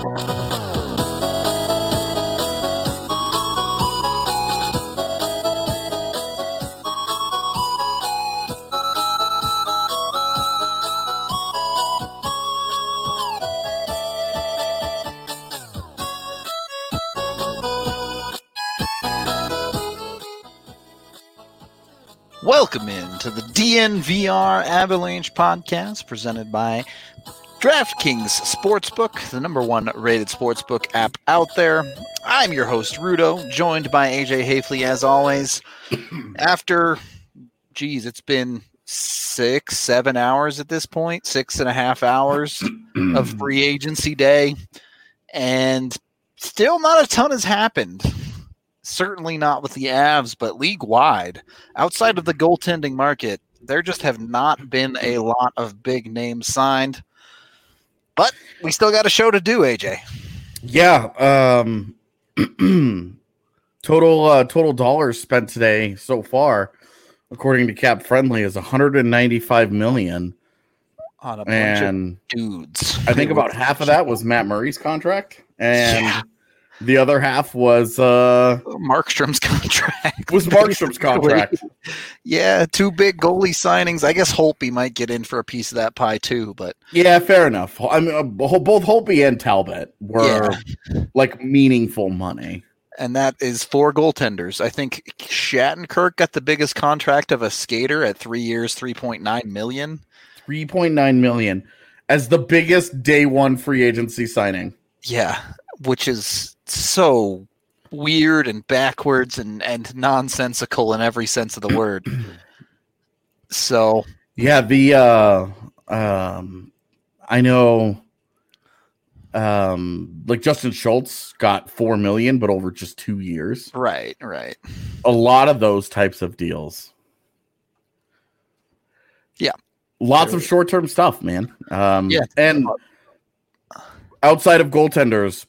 Welcome into the DNVR Avalanche podcast presented by DraftKings Sportsbook, the number one rated sportsbook app out there. I'm your host, Rudo, joined by AJ Hafley as always. After, it's been 6-7 hours at this point, 6.5 hours of free agency day, and still not a ton has happened. Certainly not with the Avs, but league-wide, outside of the goaltending market, there just have not been a lot of big names signed. But we still got a show to do, AJ. Yeah. Total dollars spent today so far, according to Cap Friendly, is $195 million. On a bunch of dudes. I think about half of that was Matt Murray's contract, and the other half was Markstrom's contract. Yeah, two big goalie signings. I guess Holtby might get in for a piece of that pie too, but yeah, fair enough. I mean, both Holtby and Talbot were like meaningful money, and that is 4 goaltenders. I think Shattenkirk got the biggest contract of a skater at 3 years, $3.9 million. $3.9 million as the biggest day one free agency signing. Yeah, which is so weird and backwards and nonsensical in every sense of the word. So yeah, I know like Justin Schultz got $4 million, but over just 2 years. Right. A lot of those types of deals. Yeah. Lots of short-term stuff, man. And outside of goaltenders,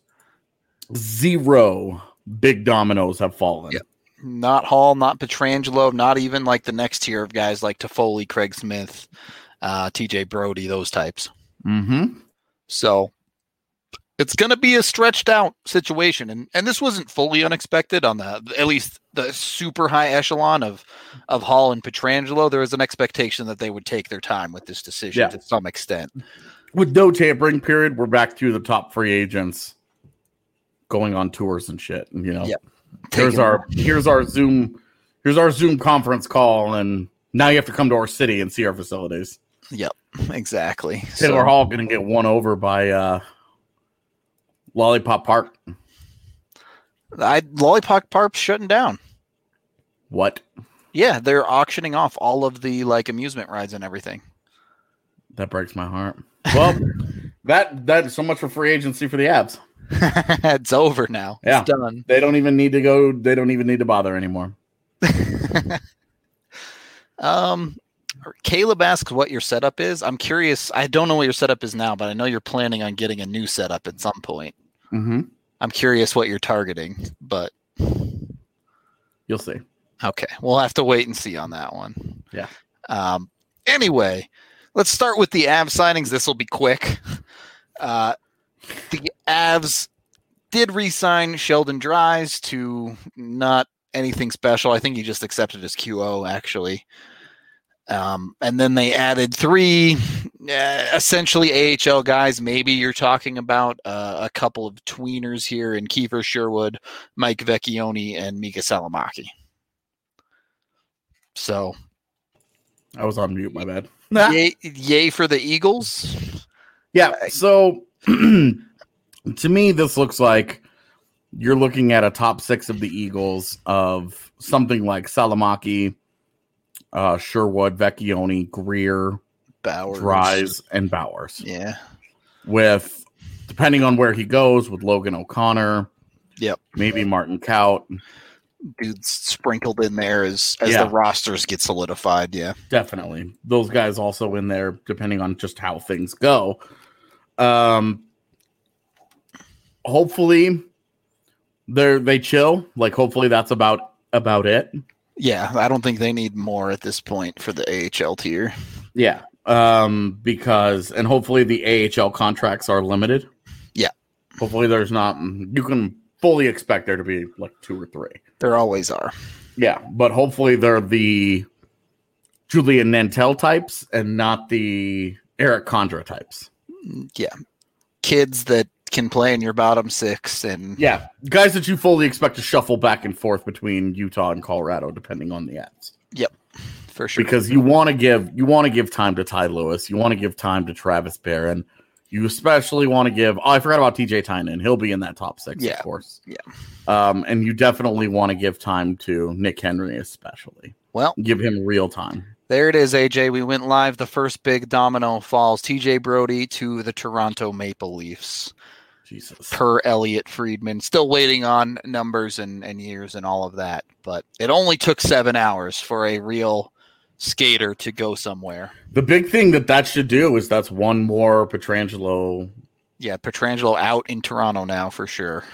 0 big dominoes have fallen. Yeah. Not Hall, not Pietrangelo, not even like the next tier of guys like Toffoli, Craig Smith, TJ Brody, those types. Mm-hmm. So it's going to be a stretched out situation. And this wasn't fully unexpected on at least the super high echelon of Hall and Pietrangelo. There was an expectation that they would take their time with this decision to some extent. With no tampering period, we're back to the top free agents going on tours and shit. And, here's our Zoom conference call, and now you have to come to our city and see our facilities. Yep, exactly. Taylor Hall going to get won over by Lollipop Park. Lollipop Park's shutting down. What? Yeah, they're auctioning off all of the amusement rides and everything. That breaks my heart. Well, that's so much for free agency for the Avs. It's over now. Yeah. It's done. They don't even need to go. They don't even need to bother anymore. Caleb asks what your setup is. I'm curious. I don't know what your setup is now, but I know you're planning on getting a new setup at some point. Mm-hmm. I'm curious what you're targeting, but you'll see. Okay. We'll have to wait and see on that one. Yeah. Anyway, let's start with the Avs signings. This will be quick. The Avs did re-sign Sheldon Dries to not anything special. I think he just accepted his QO, actually. And then they added 3 essentially AHL guys. Maybe you're talking about a couple of tweeners here in Kiefer Sherwood, Mike Vecchione, and Mika Salamaki. So I was on mute, my bad. Yay for the Eagles. Yeah, so to me, this looks like you're looking at a top 6 of the Eagles of something like Salamaki, Sherwood, Vecchione, Greer, Bowers, Dries, and Bowers. Yeah. With, depending on where he goes, with Logan O'Connor. Yep. Maybe Martin Kaut. Dudes sprinkled in there as the rosters get solidified. Yeah. Definitely. Those guys also in there, depending on just how things go. Hopefully they chill. Like, hopefully that's about it. Yeah, I don't think they need more at this point for the AHL tier. Yeah. Because, and hopefully the AHL contracts are limited. Yeah. Hopefully there's not. You can fully expect there to be like 2 or 3. There always are. Yeah, but hopefully they're the Julian Nantel types and not the Eric Condra types. Yeah. Kids that can play in your bottom 6 and yeah, guys that you fully expect to shuffle back and forth between Utah and Colorado depending on the ads. Yep. For sure. Because you want to give time to Ty Lewis, you want to give time to Travis Barron. You especially want to give I forgot about TJ Tynan. He'll be in that top 6, of course. Yeah. And you definitely want to give time to Nick Henry especially. Well, give him real time. There it is, AJ. We went live. The first big domino falls. TJ Brody to the Toronto Maple Leafs. Jesus. Per Elliot Friedman. Still waiting on numbers and years and all of that. But it only took 7 hours for a real skater to go somewhere. The big thing that should do is that's one more Pietrangelo. Yeah, Pietrangelo out in Toronto now for sure.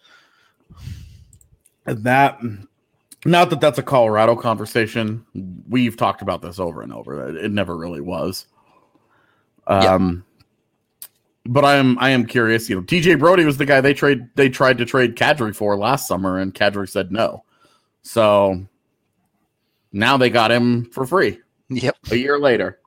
And that... Not that that's a Colorado conversation. We've talked about this over and over. It never really was. But I am curious. TJ Brody was the guy they tried to trade Kadri for last summer, and Kadri said no. So now they got him for free. Yep. A year later.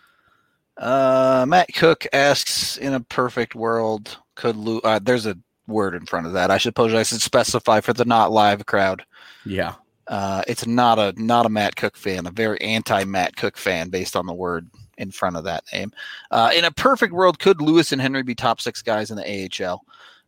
Matt Cook asks, in a perfect world, could there's a word in front of that. I suppose I should specify for the not live crowd. Yeah. It's not a Matt Cook fan, a very anti-Matt Cook fan based on the word in front of that name. In a perfect world, could Lewis and Henry be top 6 guys in the AHL?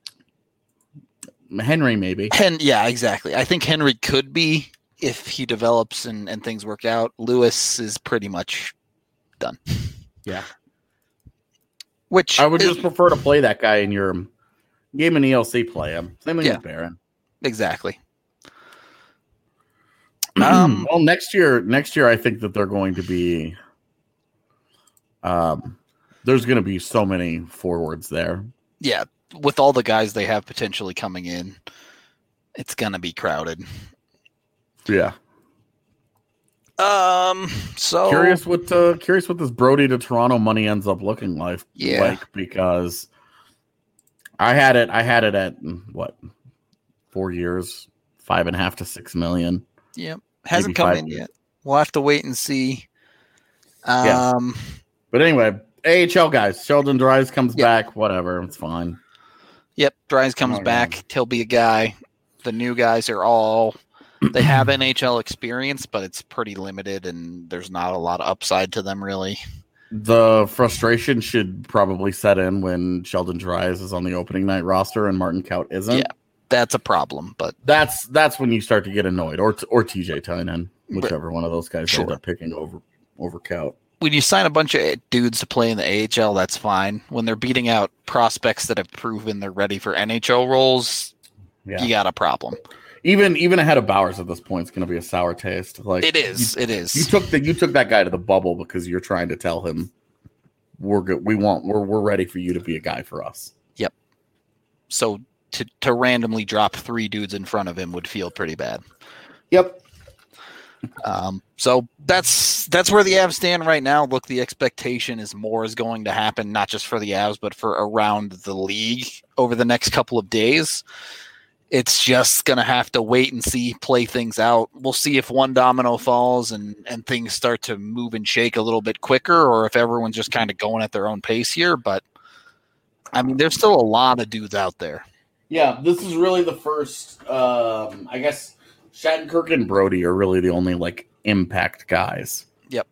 Henry, maybe. Yeah, exactly. I think Henry could be if he develops and things work out. Lewis is pretty much done. Yeah. Which I would just prefer to play that guy in your game in ELC play him. Same thing with Barron. Exactly. Well, next year, I think that they're going to be. There's going to be so many forwards there. Yeah, with all the guys they have potentially coming in, it's going to be crowded. Yeah. So curious what this Brody to Toronto money ends up looking like. Yeah. Like, because I had it at what 4 years, 5.5 to 6 million. Yep. Hasn't come in yet. We'll have to wait and see. But anyway, AHL guys, Sheldon Dries comes back. Whatever, it's fine. Yep, Dries comes back. He'll be a guy. The new guys are all they have NHL experience, but it's pretty limited, and there's not a lot of upside to them really. The frustration should probably set in when Sheldon Dries is on the opening night roster and Martin Kaut isn't. Yeah. That's a problem, but that's when you start to get annoyed, or TJ Tynan, whichever one of those guys end up picking over Kaut. When you sign a bunch of dudes to play in the AHL, that's fine. When they're beating out prospects that have proven they're ready for NHL roles, you got a problem. Even ahead of Bowers at this point, it's going to be a sour taste. Like it is. You took that guy to the bubble because you're trying to tell him we're good. We're ready for you to be a guy for us. Yep. So. To randomly drop 3 dudes in front of him would feel pretty bad. Yep. So that's where the Avs stand right now. Look, the expectation is more is going to happen, not just for the Avs, but for around the league over the next couple of days. It's just going to have to wait and see, play things out. We'll see if one domino falls and things start to move and shake a little bit quicker, or if everyone's just kind of going at their own pace here. But, I mean, there's still a lot of dudes out there. Yeah, this is really the first, I guess Shattenkirk and Brody are really the only, like, impact guys. Yep.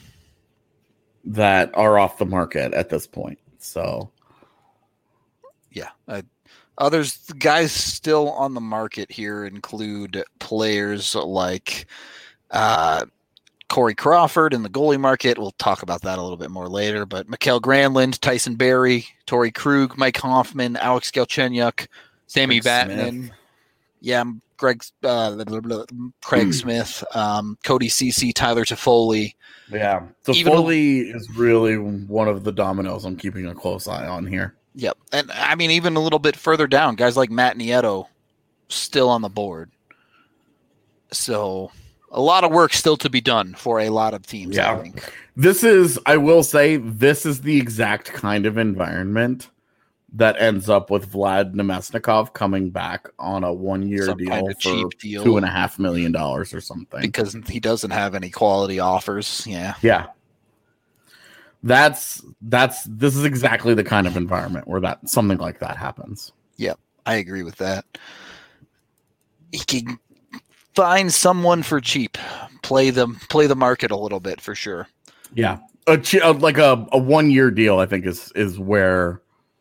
That are off the market at this point. So. Yeah. Others, guys still on the market here include players like Corey Crawford in the goalie market. We'll talk about that a little bit more later. But Mikael Granlund, Tyson Barrie, Torrey Krug, Mike Hoffman, Alex Galchenyuk, Sammy Vatanen, Craig Smith, Cody Ceci, Tyler Toffoli. Yeah, Toffoli is really one of the dominoes I'm keeping a close eye on here. Yep, and I mean even a little bit further down, guys like Matt Nieto still on the board. So a lot of work still to be done for a lot of teams. Yeah, I think. I will say, this is the exact kind of environment that ends up with Vlad Nemesnikov coming back on a 1-year deal kind of for cheap deal. $2.5 million or something. Because he doesn't have any quality offers. Yeah. Yeah. This is exactly the kind of environment where something like that happens. Yep. I agree with that. He can find someone for cheap. Play the market a little bit for sure. Yeah. Like a 1-year deal, I think is where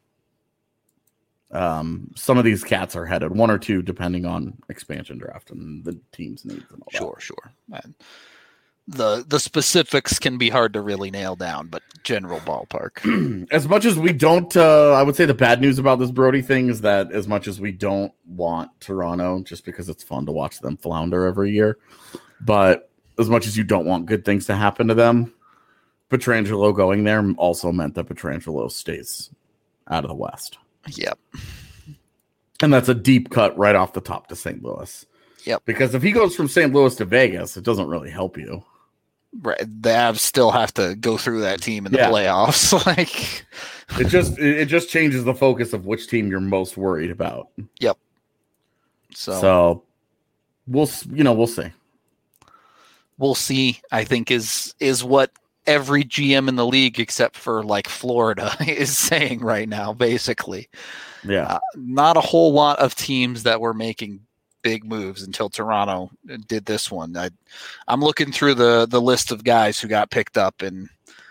some of these cats are headed, 1 or 2 depending on expansion draft and the team's needs and all that. Sure. And the specifics can be hard to really nail down, but general ballpark. As much as we don't, I would say the bad news about this Brody thing is that as much as we don't want Toronto, just because it's fun to watch them flounder every year, but as much as you don't want good things to happen to them, Pietrangelo going there also meant that Pietrangelo stays out of the West. Yep. And that's a deep cut right off the top to St. Louis. Yep. Because if he goes from St. Louis to Vegas, it doesn't really help you. Right. The Avs still have to go through that team in the playoffs. Like it just changes the focus of which team you're most worried about. Yep. So we'll see. We'll see, I think is what every GM in the league except for like Florida is saying right now, basically. Yeah. Not a whole lot of teams that were making big moves until Toronto did this one. I'm looking through the list of guys who got picked up, and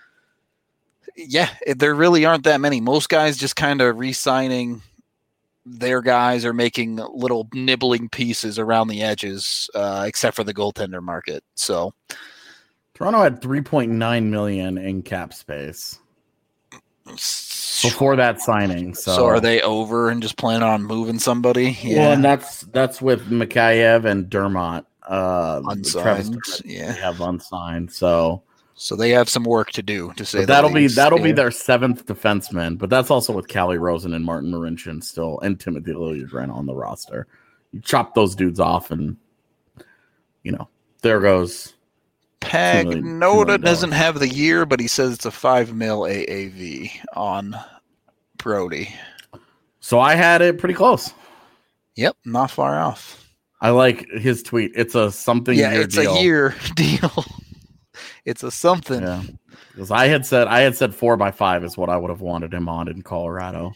there really aren't that many. Most guys just kind of re-signing their guys or making little nibbling pieces around the edges, except for the goaltender market. So Toronto had $3.9 million in cap space before that signing. So are they over and just planning on moving somebody? Yeah. Well, and that's with Mikheyev and Dermott. Unsigned. They have unsigned. So they have some work to do to say that'll be their 7th defenseman, but that's also with Calle Rosen and Martin Marincin still and Timothy Liljegren on the roster. You chop those dudes off and there goes Pagnotta doesn't have the year, but he says it's a $5 million AAV on Brody. So I had it pretty close. Yep, not far off. I like his tweet. It's a something. Yeah, it's a year deal. It's a something. Yeah, because I had said 4x5 is what I would have wanted him on in Colorado.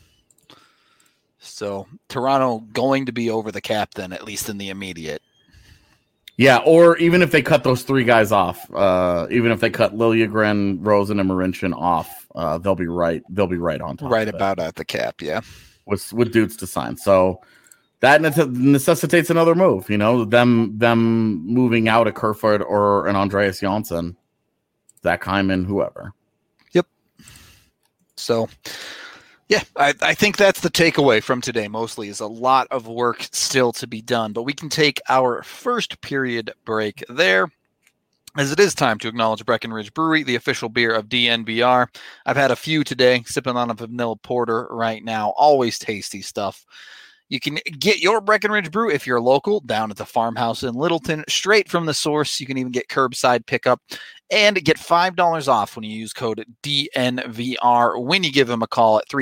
So Toronto going to be over the cap then, at least in the immediate. Yeah, or even if they cut those 3 guys off, even if they cut Liljegren, Rosen, and Marincin off, they'll be right. They'll be right on top. Right about at the cap, yeah. With dudes to sign, so that necessitates another move. Them moving out a Kerfoot or an Andreas Janssen, Zach Hyman, whoever. Yep. So. Yeah, I think that's the takeaway from today mostly is a lot of work still to be done. But we can take our first period break there, as it is time to acknowledge Breckenridge Brewery, the official beer of DNVR. I've had a few today, sipping on a vanilla porter right now. Always tasty stuff. You can get your Breckenridge Brew if you're local down at the farmhouse in Littleton, straight from the source. You can even get curbside pickup and get $5 off when you use code DNVR when you give them a call at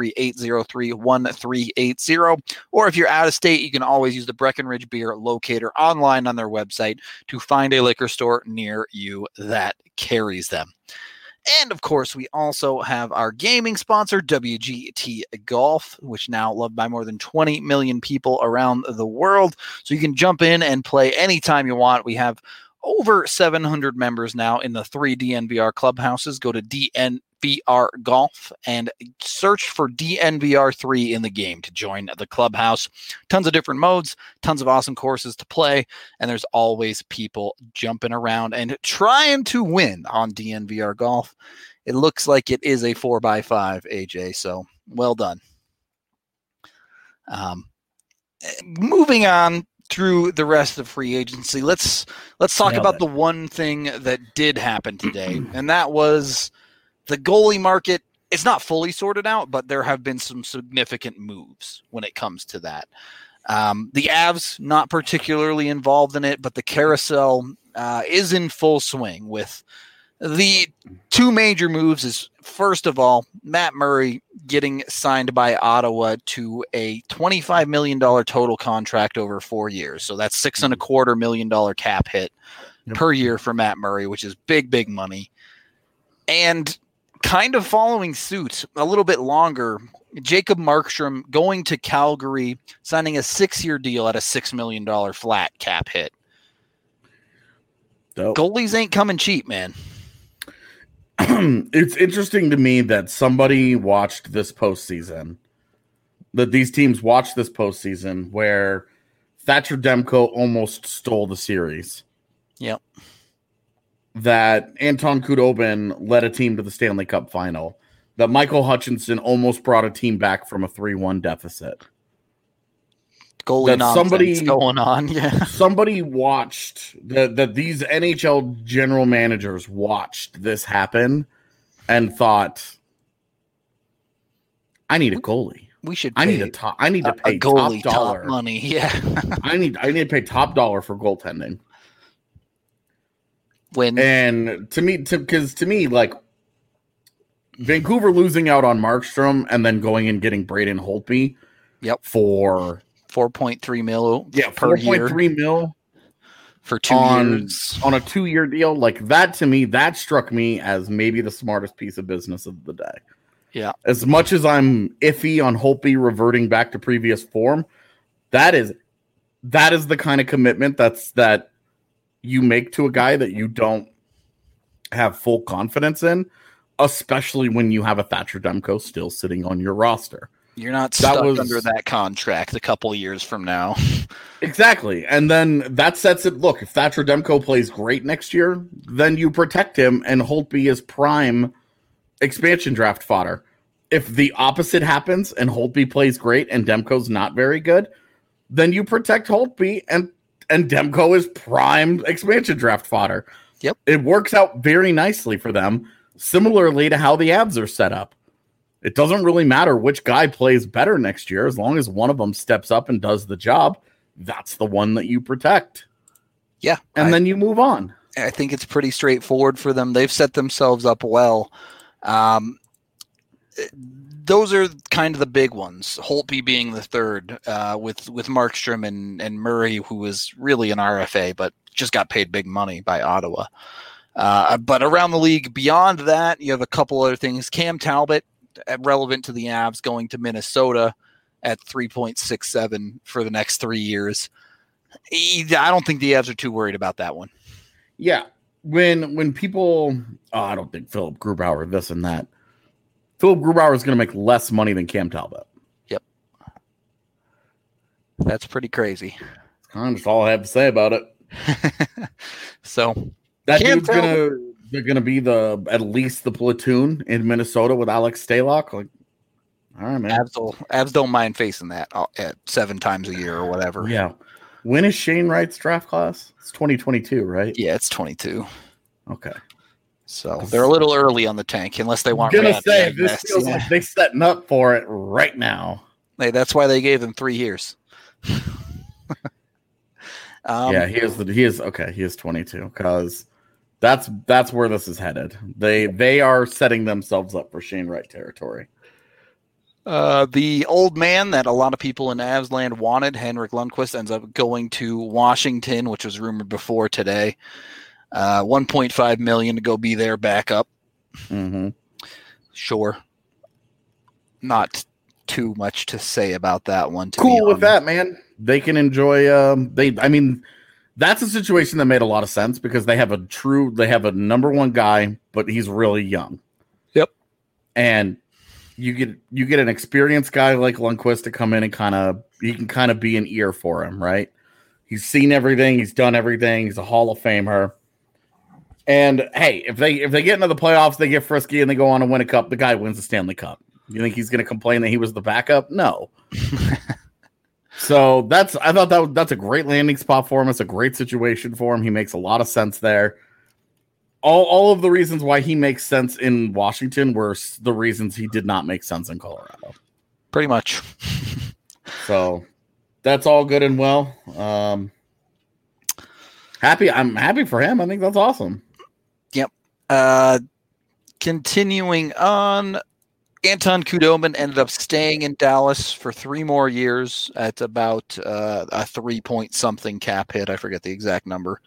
303-803-1380. Or if you're out of state, you can always use the Breckenridge Beer locator online on their website to find a liquor store near you that carries them. And, of course, we also have our gaming sponsor, WGT Golf, which now loved by more than 20 million people around the world. So you can jump in and play anytime you want. We have over 700 members now in the 3 DNVR clubhouses. Go to DNVR Golf and search for DNVR3 in the game to join the clubhouse. Tons of different modes, tons of awesome courses to play, and there's always people jumping around and trying to win on DNVR Golf. It looks like it is a 4x5, AJ, so well done. Moving on through the rest of free agency, let's talk about the one thing that did happen today, and that was the goalie market. It's not fully sorted out, but there have been some significant moves when it comes to that. The Avs not particularly involved in it, but the carousel is in full swing with the 2 major moves. Is first of all, Matt Murray getting signed by Ottawa to a $25 million total contract over 4 years. So that's $6.25 million cap hit per year for Matt Murray, which is big money. And kind of following suit a little bit longer, Jacob Markstrom going to Calgary, signing a 6-year deal at a $6 million flat cap hit. Dope. Goalies ain't coming cheap, man. It's interesting to me that somebody watched this postseason, that these teams watched this postseason where Thatcher Demko almost stole the series. Yep. That Anton Khudobin led a team to the Stanley Cup final. That Michael Hutchinson almost brought a team back from a 3-1 deficit. Goalie nonsense going on. Yeah. Somebody watched that these NHL general managers watched this happen and thought, I need a goalie. I need to pay goalie top dollar. Top money. Yeah. I need to pay top dollar for goaltending. To me, like Vancouver losing out on Markstrom and then going and getting Braden Holtby. Yep. For $4.3 million. Yeah, $4.3 million for 2 years on a 2-year deal. Like that, to me, that struck me as maybe the smartest piece of business of the day. Yeah. As much as I'm iffy on Holtby reverting back to previous form, that is the kind of commitment that you make to a guy that you don't have full confidence in, especially when you have a Thatcher Demko still sitting on your roster. You're not stuck under that contract a couple of years from now. Exactly. And then that sets it. Look, if Thatcher Demko plays great next year, then you protect him and Holtby is prime expansion draft fodder. If the opposite happens and Holtby plays great and Demko's not very good, then you protect Holtby and Demko is prime expansion draft fodder. Yep. It works out very nicely for them, similarly to how the Avs are set up. It doesn't really matter which guy plays better next year. As long as one of them steps up and does the job, that's the one that you protect. Yeah. And then you move on. I think it's pretty straightforward for them. They've set themselves up well. Those are kind of the big ones. Holtby being the third, with Markstrom and Murray, who was really an RFA, but just got paid big money by Ottawa. But around the league, beyond that, you have a couple other things. Cam Talbot, relevant to the Avs, going to Minnesota at 3.67 for the next 3 years. I don't think the Avs are too worried about that one. Yeah. When people, I don't think Philip Grubauer, this and that. Philip Grubauer is going to make less money than Cam Talbot. Yep. That's pretty crazy. That's kind of all I have to say about it. So that dude's they're gonna be at least the platoon in Minnesota with Alex Stalock. Like, all right, man. Avs don't mind facing that at 7 times a year or whatever. Yeah. When is Shane Wright's draft class? It's 2022, right? Yeah, it's 22. Okay. So they're a little early on the tank, unless they want. I'm gonna say this feels like they're setting up for it right now. Hey, that's why they gave them 3 years. Yeah, he is 22 because that's where this is headed. They are setting themselves up for Shane Wright territory. The old man that a lot of people in Avs land wanted, Henrik Lundqvist, ends up going to Washington, which was rumored before today. $1.5 million to go be their backup. Mm-hmm. Sure. Not too much to say about that one. Cool with that, man. They can enjoy. That's a situation that made a lot of sense because they have a number one guy, but he's really young. Yep. And you get an experienced guy like Lundqvist to come in and he can be an ear for him, right? He's seen everything, he's done everything, he's a Hall of Famer. And hey, if they get into the playoffs, they get frisky and they go on to win a cup, the guy wins the Stanley Cup. You think he's going to complain that he was the backup? No. So that's a great landing spot for him. It's a great situation for him. He makes a lot of sense there. All of the reasons why he makes sense in Washington were the reasons he did not make sense in Colorado. Pretty much. So that's all good and well. I'm happy for him. I think that's awesome. Yep. Continuing on, Anton Khudobin ended up staying in Dallas for 3 more years at about a 3 point something cap hit. I forget the exact number,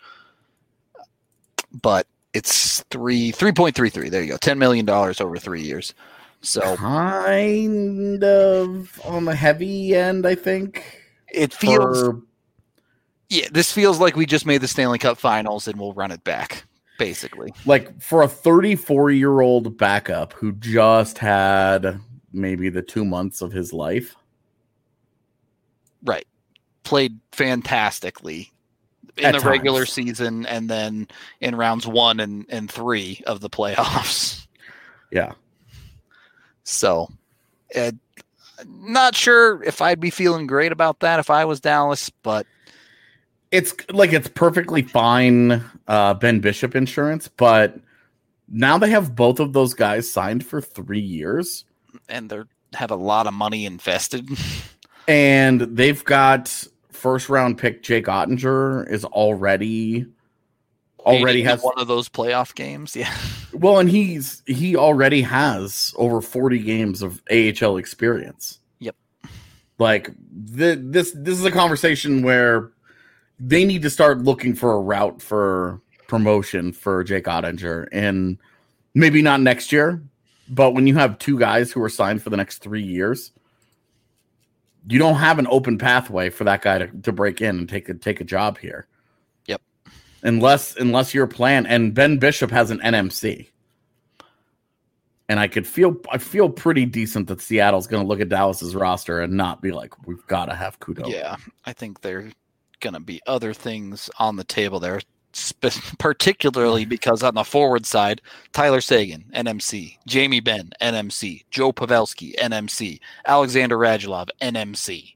but it's 3.33. There you go. $10 million over 3 years. So kind of on the heavy end, I think. It feels. Yeah, this feels like we just made the Stanley Cup Finals and we'll run it back, basically. Like for a 34-year-old backup who just had maybe the 2 months of his life. Right. Played fantastically in the regular season and then in rounds 1 and 3 of the playoffs. Yeah. So, not sure if I'd be feeling great about that if I was Dallas, but it's perfectly fine Ben Bishop insurance, but now they have both of those guys signed for 3 years. And they have a lot of money invested. And they've got first-round pick Jake Ottinger is already has one of those playoff games. Yeah. Well, and he already has over 40 games of AHL experience. Yep. Like this is a conversation where they need to start looking for a route for promotion for Jake Ottinger, and maybe not next year, but when you have 2 guys who are signed for the next 3 years, you don't have an open pathway for that guy to break in and take a job here. Yep. Unless your plan, and Ben Bishop has an NMC. And I feel pretty decent that Seattle's going to look at Dallas's roster and not be like, we've got to have Kudo. Yeah, I think they're going to be other things on the table there, particularly because on the forward side, Tyler Seguin, NMC, Jamie Benn, NMC, Joe Pavelski, NMC, Alexander Radulov, NMC.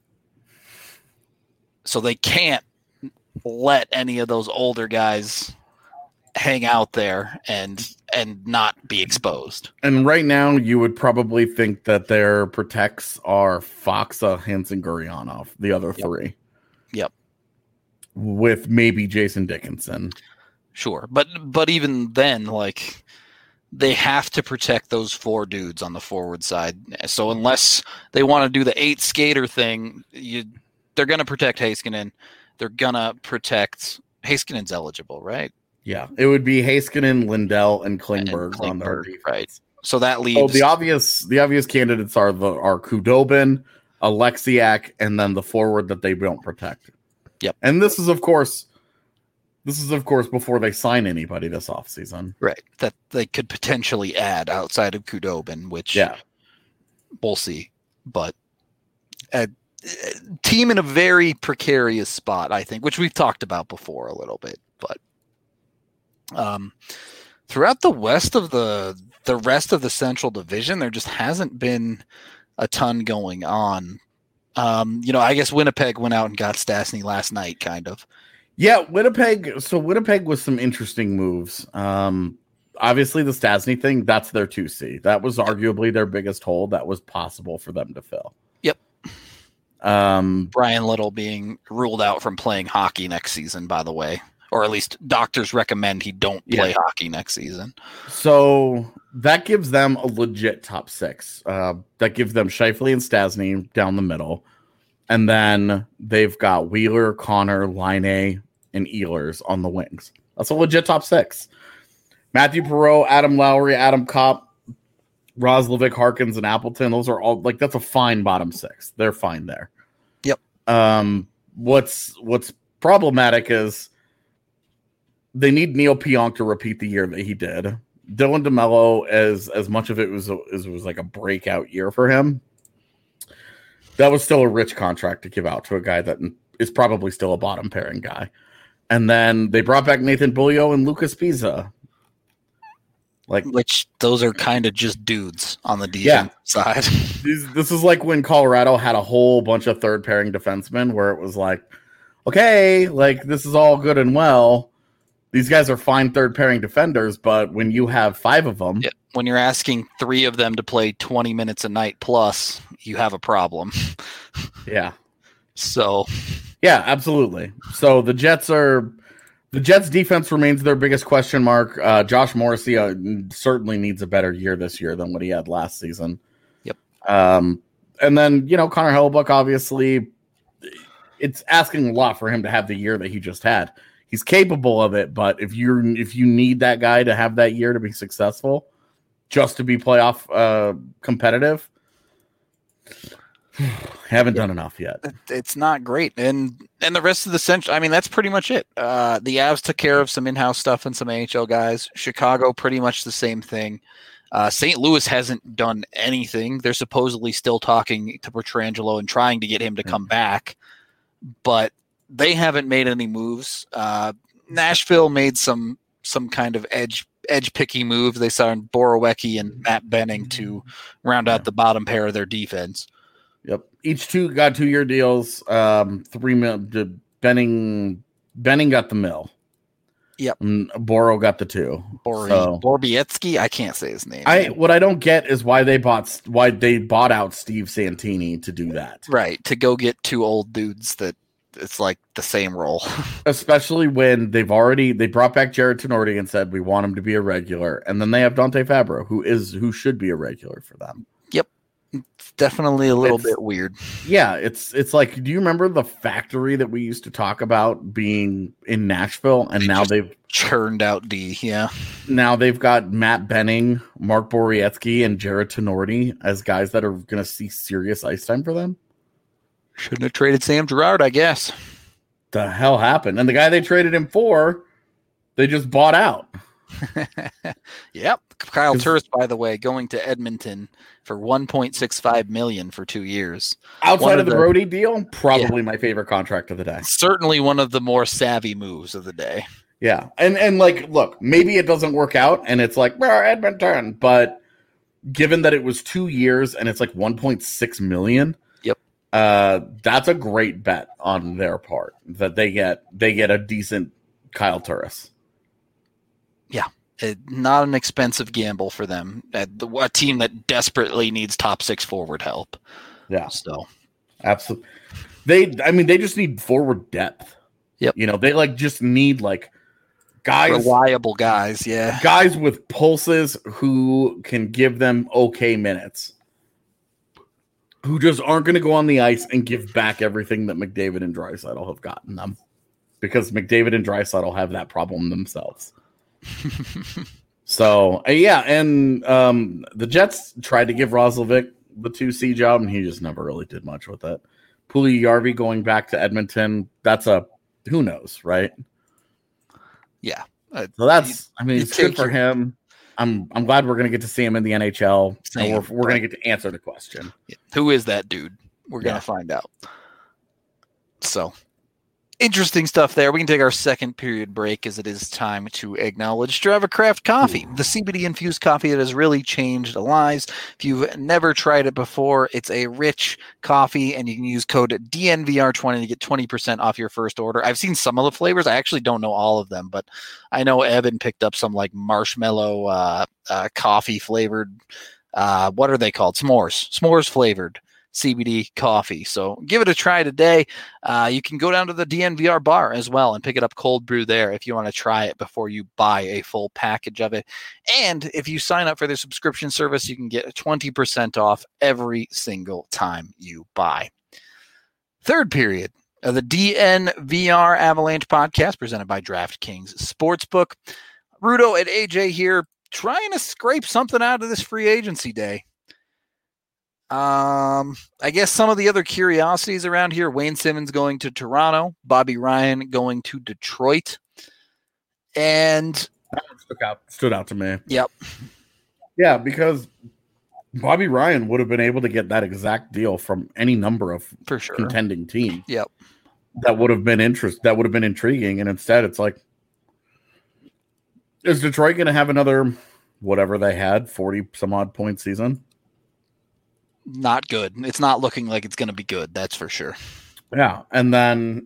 So they can't let any of those older guys hang out there and not be exposed. And right now, you would probably think that their protects are Faksa, Hansen, Gurianov, the other 3. Yep. With maybe Jason Dickinson. Sure. But even then, like, they have to protect those 4 dudes on the forward side. So unless they want to do the 8 skater thing, they're going to protect Heiskanen. They're going to protect Heiskanen's eligible, right? Yeah. It would be Heiskanen, Lindell, and Klingberg on their defense. Right. So that leaves the obvious candidates are Khudobin, Alexiak, and then the forward that they don't protect. Yep. And this is of course before they sign anybody this offseason. Right. That they could potentially add outside of Khudobin, which we'll see. But a team in a very precarious spot, I think, which we've talked about before a little bit. But throughout the rest of the Central Division, there just hasn't been a ton going on. I guess Winnipeg went out and got Stastny last night, kind of. Yeah, Winnipeg. So Winnipeg was some interesting moves. Obviously, the Stastny thing, that's their 2C. That was arguably their biggest hole that was possible for them to fill. Yep. Brian Little being ruled out from playing hockey next season, by the way. Or at least doctors recommend he don't play hockey next season. So that gives them a legit top 6. That gives them Scheifele and Stastny down the middle. And then they've got Wheeler, Connor, Laine, and Ehlers on the wings. That's a legit top 6. Matthew Perreault, Adam Lowry, Adam Kopp, Roslovic, Harkins, and Appleton. Those are all that's a fine bottom 6. They're fine there. Yep. What's problematic is they need Neil Pionk to repeat the year that he did. Dylan DeMello, as much of it was like a breakout year for him, that was still a rich contract to give out to a guy that is probably still a bottom pairing guy. And then they brought back Nathan Beaulieu and Lucas Pisa. Which those are kind of just dudes on the defense side. This is like when Colorado had a whole bunch of third pairing defensemen where it was like, okay, like this is all good and well. These guys are fine third pairing defenders, but when you have 5 of them, when you're asking 3 of them to play 20 minutes a night plus, you have a problem. Yeah. So, yeah, absolutely. So the Jets are The Jets defense remains their biggest question mark. Josh Morrissey certainly needs a better year this year than what he had last season. Yep. And then, Connor Hellebuyck, obviously, it's asking a lot for him to have the year that he just had. He's capable of it, but if you need that guy to have that year to be successful, just to be playoff competitive, haven't done enough yet. It's not great. And the rest of the century, I mean, that's pretty much it. The Avs took care of some in-house stuff and some AHL guys. Chicago, pretty much the same thing. St. Louis hasn't done anything. They're supposedly still talking to Pietrangelo and trying to get him to come back, but they haven't made any moves. Nashville made some kind of edge picky move. They signed Borowiecki and Matt Benning to round out the bottom pair of their defense. Yep. Each two got 2-year deals. $3 million. Benning got the mill. Yep. Boro got the 2. Borowiecki, I can't say his name. What I don't get is why they bought out Steve Santini to do that. Right, to go get 2 old dudes that it's like the same role. Especially when they brought back Jared Tenorti and said we want him to be a regular, and then they have Dante Fabro, who should be a regular for them. Yep. It's definitely a little bit weird. Yeah, it's like, do you remember the factory that we used to talk about being in Nashville? And now they've churned out D. Yeah. Now they've got Matt Benning, Mark Borowiecki, and Jared Tenorti as guys that are going to see serious ice time for them. Shouldn't have traded Sam Girard, I guess. The hell happened? And the guy they traded him for, they just bought out. Yep. Kyle Turris, by the way, going to Edmonton for $1.65 million for 2 years. Outside of the Brody deal, probably my favorite contract of the day. Certainly one of the more savvy moves of the day. Yeah. And like, look, maybe it doesn't work out and it's like, Edmonton, but given that it was 2 years and it's like $1.6 million, that's a great bet on their part that they get a decent Kyle Turris. Yeah, not an expensive gamble for them. A team that desperately needs top 6 forward help. Yeah, so absolutely. They just need forward depth. Yep. They just need guys, reliable guys. Yeah, guys with pulses who can give them okay minutes. Who just aren't going to go on the ice and give back everything that McDavid and Draisaitl have gotten them. Because McDavid and Draisaitl have that problem themselves. So, and the Jets tried to give Roslovic the 2C job, and he just never really did much with it. Puljujarvi going back to Edmonton, that's who knows, right? Yeah. So it's good for him. I'm glad we're going to get to see him in the NHL. And we're going to get to answer the question. Who is that dude? We're going to find out. So, interesting stuff there. We can take our second period break as it is time to acknowledge Strava Craft Coffee, the CBD-infused coffee that has really changed lives. If you've never tried it before, it's a rich coffee, and you can use code DNVR20 to get 20% off your first order. I've seen some of the flavors. I actually don't know all of them, but I know Evan picked up some marshmallow coffee flavored. What are they called? S'mores flavored CBD coffee. So give it a try today. You can go down to the DNVR bar as well and pick it up cold brew there if you want to try it before you buy a full package of it. And if you sign up for their subscription service, you can get 20% off every single time you buy. Third period of the DNVR Avalanche podcast presented by DraftKings Sportsbook. Rudo and AJ here trying to scrape something out of this free agency day. I guess some of the other curiosities around here, Wayne Simmons going to Toronto, Bobby Ryan going to Detroit. And that stood out to me. Yep. Yeah, because Bobby Ryan would have been able to get that exact deal from any number of contending team. Yep. That would have been intriguing. And instead it's like, is Detroit going to have another, whatever they had, 40 some odd point season? Not good. It's not looking like it's going to be good. That's for sure. Yeah. And then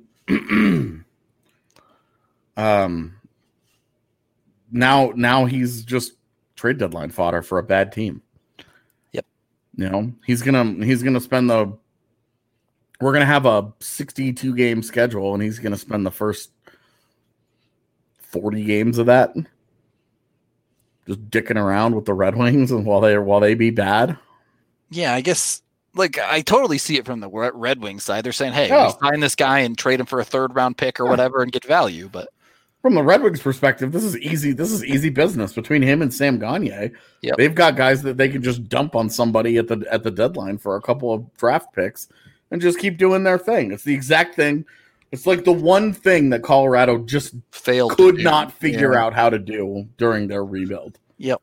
now he's just trade deadline fodder for a bad team. Yep. He's going to spend we're going to have a 62 game schedule and he's going to spend the first 40 games of that. Just dicking around with the Red Wings and while they be bad. Yeah, I guess like I totally see it from the Red Wings side. They're saying, "Hey, we sign this guy and trade him for a 3rd round pick or whatever and get value." But from the Red Wings perspective, this is easy. This is easy business between him and Sam Gagner. Yep. They've got guys that they can just dump on somebody at the deadline for a couple of draft picks and just keep doing their thing. It's the exact thing. It's like the one thing that Colorado just could not figure out how to do during their rebuild. Yep.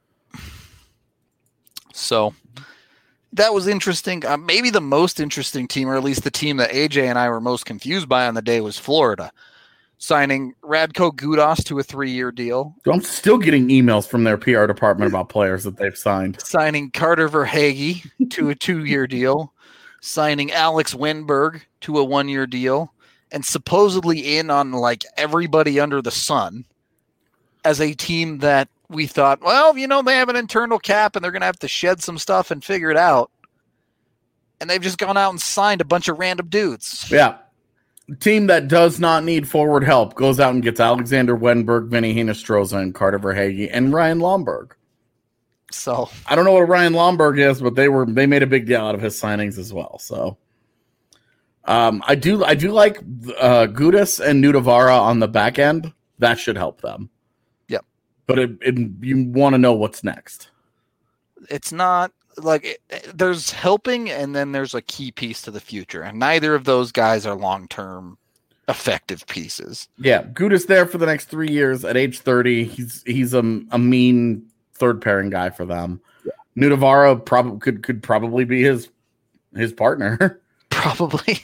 So that was interesting. Maybe the most interesting team, or at least the team that AJ and I were most confused by on the day, was Florida, signing Radko Gudas to a 3-year deal. I'm still getting emails from their PR department about players that they've signed. Signing Carter Verhaeghe to a 2-year deal. Signing Alex Wenberg to a 1-year deal. And supposedly in on like everybody under the sun as a team that we thought, well, you know, they have an internal cap and they're going to have to shed some stuff and figure it out. And they've just gone out and signed a bunch of random dudes. Yeah. Team that does not need forward help goes out and gets Alexander Wenberg, Vinny Hinostroza, and Carter Verhaeghe, and Ryan Lomberg. So I don't know what Ryan Lomberg is, but they made a big deal out of his signings as well. So I do like Gudas and Nudavara on the back end. That should help them. Yep. But you want to know what's next. It's not like there's helping, and then there's a key piece to the future, and neither of those guys are long-term effective pieces. Yeah, Gudas there for the next 3 years at age 30. He's a mean third pairing guy for them. Yeah. Nudavara could probably be his partner. Probably.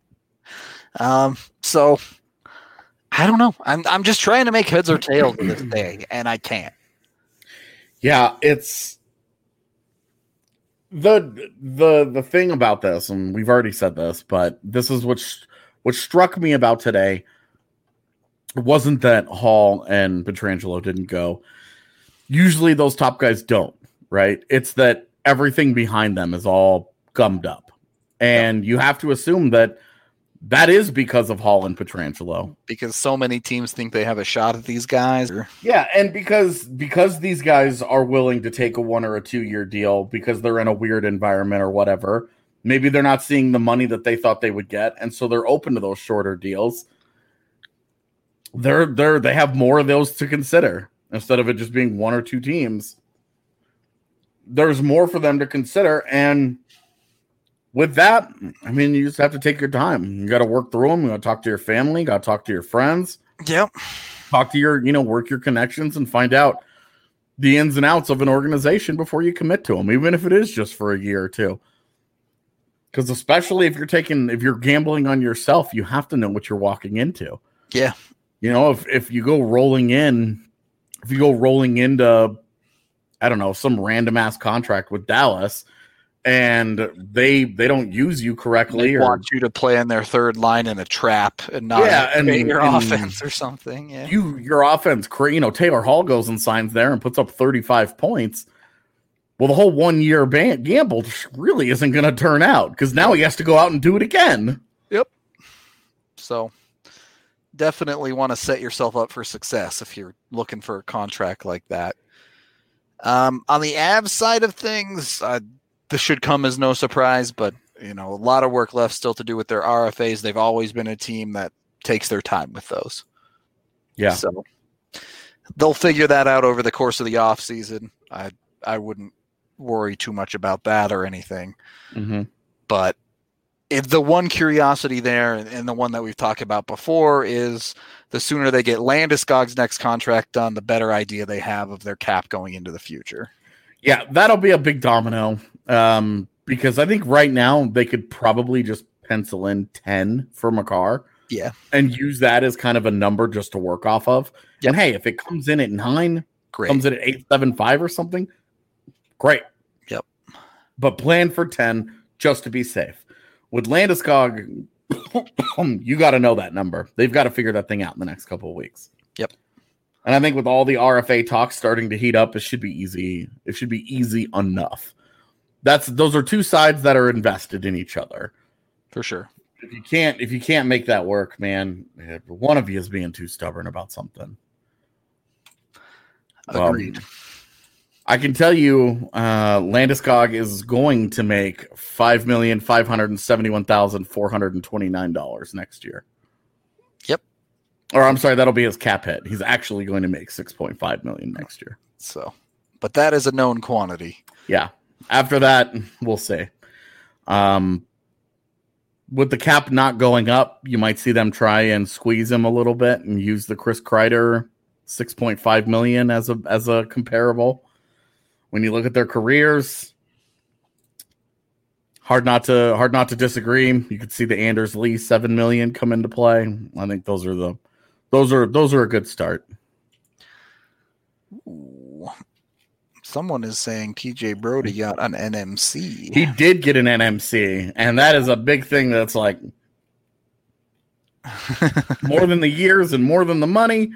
So I don't know. I'm just trying to make heads or tails of this day, and I can't. Yeah, it's the thing about this, and we've already said this, but this is what struck me about today. It wasn't that Hall and Pietrangelo didn't go. Usually those top guys don't, right? It's that everything behind them is all gummed up. And you have to assume that is because of Hall and Pietrangelo. Because so many teams think they have a shot at these guys. Yeah, and because these guys are willing to take a 1 or a 2 year deal because they're in a weird environment or whatever. Maybe they're not seeing the money that they thought they would get, and so they're open to those shorter deals. They have more of those to consider instead of it just being 1 or 2 teams. There's more for them to consider, and with that, I mean, you just have to take your time. You got to work through them. You got to talk to your family. You got to talk to your friends. Yep. Talk to work your connections and find out the ins and outs of an organization before you commit to them, even if it is just for a year or two. Because especially if you're gambling on yourself, you have to know what you're walking into. Yeah. If you go rolling into, I don't know, some random ass contract with Dallas, and they don't use you correctly, they want you to play in their third line in a trap and not your offense or something. Yeah, your offense. Taylor Hall goes and signs there and puts up 35 points. Well, the whole 1 year gamble really isn't going to turn out because now he has to go out and do it again. Yep. So definitely want to set yourself up for success if you're looking for a contract like that. On the Avs side of things, this should come as no surprise, but a lot of work left still to do with their RFAs. They've always been a team that takes their time with those. Yeah. So they'll figure that out over the course of the off season. I wouldn't worry too much about that or anything. Mm-hmm. But if the one curiosity there, and the one that we've talked about before, is the sooner they get Landeskog's next contract done, the better idea they have of their cap going into the future. Yeah, that'll be a big domino because I think right now they could probably just pencil in 10 for Makar. Yeah. And use that as kind of a number just to work off of. Yep. And hey, if it comes in at 9, great. Comes in at 8.75 or something, great. Yep. But plan for 10 just to be safe. With Landeskog, you got to know that number. They've got to figure that thing out in the next couple of weeks. Yep. And I think with all the RFA talks starting to heat up, it should be easy. It should be easy enough. Those are two sides that are invested in each other. For sure. If you can't make that work, man, one of you is being too stubborn about something. Agreed. I can tell you, Landeskog is going to make $5,571,429 next year. Yep. Or I'm sorry, that'll be his cap hit. He's actually going to make $6.5 million next year. So, but that is a known quantity. Yeah. After that, we'll see. With the cap not going up, you might see them try and squeeze him a little bit and use the Chris Kreider $6.5 million as a comparable. When you look at their careers, hard not to disagree. You could see the Anders Lee $7 million come into play. I think those are a good start. Ooh. Someone is saying TJ Brody got an NMC. He did get an NMC, and that is a big thing. That's like more than the years and more than the money.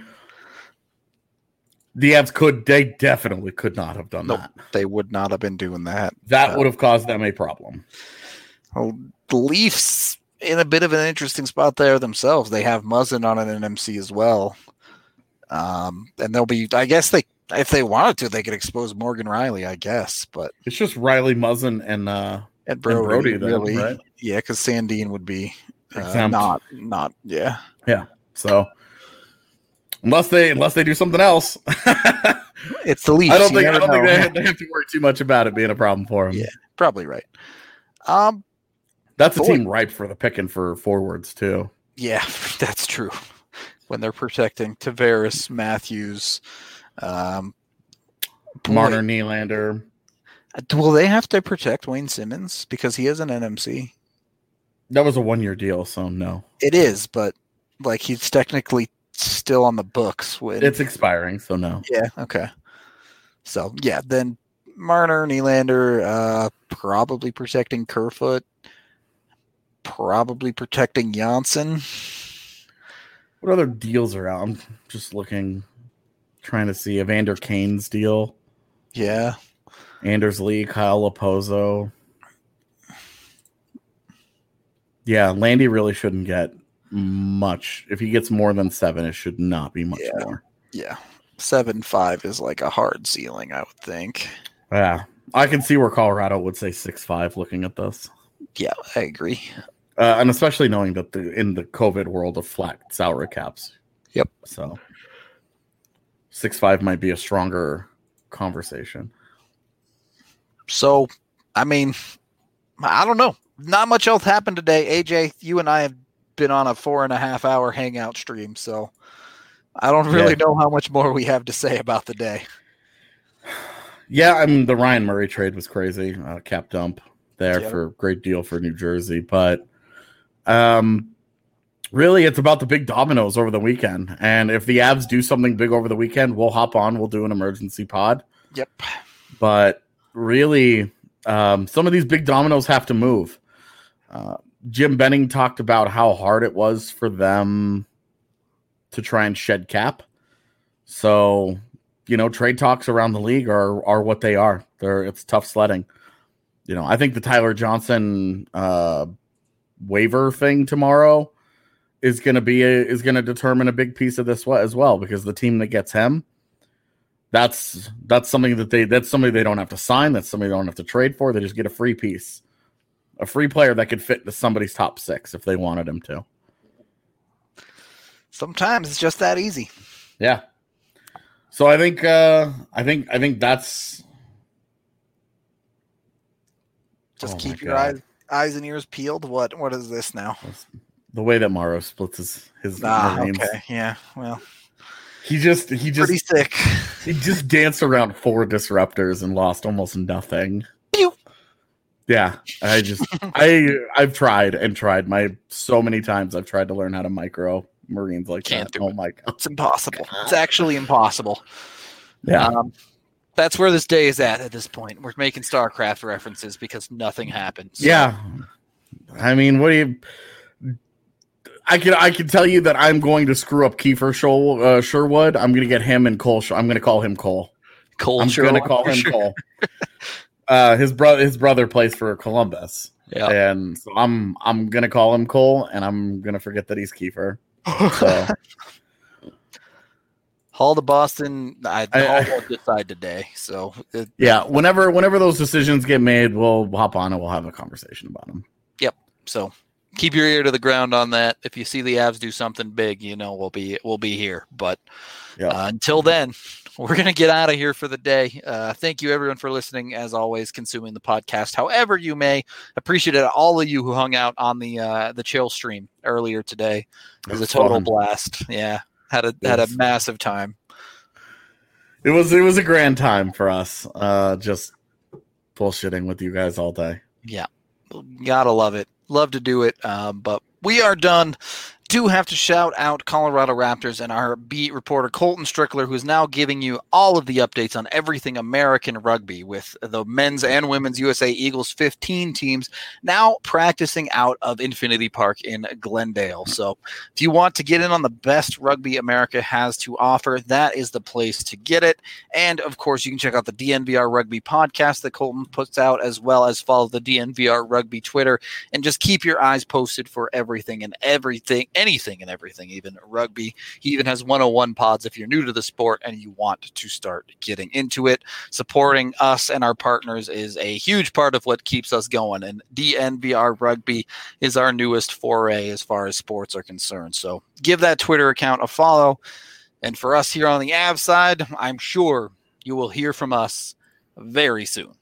The Avs they definitely could not have done that. They would not have been doing that. That would have caused them a problem. Well, the Leafs in a bit of an interesting spot there themselves. They have Muzzin on an NMC as well. And they'll be, I guess if they wanted to, they could expose Morgan Riley, I guess. But it's just Riley, Muzzin, and Brody then, really. Right? Yeah, because Sandin would be not. Yeah. Yeah. So unless they do something else, it's the Leafs. I don't think they have to worry too much about it being a problem for them. Yeah, probably right. That's a team ripe for the picking for forwards too. Yeah, that's true. When they're protecting Tavares, Matthews, Marner, Nylander. Will they have to protect Wayne Simmons because he is an NMC? That was a 1-year deal, so no. It is, but like he's technically still on the books. It's expiring, so no. Yeah, okay. So yeah, then Marner, Nylander, probably protecting Kerfoot, probably protecting Janssen. What other deals are out? I'm just looking, trying to see Evander Kane's deal. Yeah. Anders Lee, Kyle Lapozo. Yeah, Landy really shouldn't get much. If he gets more than 7, it should not be much more. Yeah. 7.5 is like a hard ceiling, I would think. Yeah. I can see where Colorado would say 6.5 looking at this. Yeah, I agree. And especially knowing that in the COVID world of flat salary caps. Yep. So 6.5 might be a stronger conversation. So, I mean, I don't know. Not much else happened today. AJ, you and I have been on a 4.5-hour hangout stream, so I don't really know how much more we have to say about the day. Yeah, I mean, the Ryan Murray trade was crazy. Cap dump there for a great deal for New Jersey. But really, it's about the big dominoes over the weekend. And if the Avs do something big over the weekend, we'll hop on. We'll do an emergency pod. Yep. But really, some of these big dominoes have to move. Jim Benning talked about how hard it was for them to try and shed cap. So, trade talks around the league are what they are. It's tough sledding. I think the Tyler Johnson waiver thing tomorrow is going to determine a big piece of this as well, because the team that gets him, that's something that's somebody they don't have to sign. That's somebody they don't have to trade for. They just get a free piece, a free player that could fit into somebody's top 6 if they wanted him to. Sometimes it's just that easy. Yeah. So I think that's just keep your eyes and ears peeled. What is this now? The way that Morrow splits his Marines. Okay. Yeah. Well, he just pretty sick. He just danced around 4 disruptors and lost almost nothing. Pew. Yeah, I've tried so many times. I've tried to learn how to micro Marines like Can't that. Do it. My God. It's impossible. It's actually impossible. Yeah. That's where this day is at this point. We're making StarCraft references because nothing happens. Yeah. I mean, I can tell you that I'm going to screw up Kiefer Sherwood. I'm going to get him and Cole. I'm going to call him Cole. I'm going to call him Cole. His brother plays for Columbus. Yeah. And so I'm going to call him Cole, and I'm going to forget that he's Kiefer. So. Hall to Boston. Hall won't decide today. So whenever those decisions get made, we'll hop on and we'll have a conversation about them. Yep. So keep your ear to the ground on that. If you see the Avs do something big, we'll be here. But until then, we're going to get out of here for the day. Thank you, everyone, for listening. As always, consuming the podcast however you may. Appreciate it. All of you who hung out on the chill stream earlier today. It was a total blast. Yeah, had a massive time. It was a grand time for us. Just bullshitting with you guys all day. Yeah, gotta love it. Love to do it. But we are done. Do have to shout out Colorado Raptors and our beat reporter Colton Strickler, who is now giving you all of the updates on everything American rugby with the men's and women's USA Eagles 15 teams now practicing out of Infinity Park in Glendale. So if you want to get in on the best rugby America has to offer, that is the place to get it. And of course, you can check out the DNVR Rugby podcast that Colton puts out, as well as follow the DNVR Rugby Twitter, and just keep your eyes posted for anything and everything, even rugby. He even has 101 pods if you're new to the sport and you want to start getting into it. Supporting us and our partners is a huge part of what keeps us going, and DNVR Rugby is our newest foray as far as sports are concerned. So give that Twitter account a follow. And for us here on the Avs side, I'm sure you will hear from us very soon.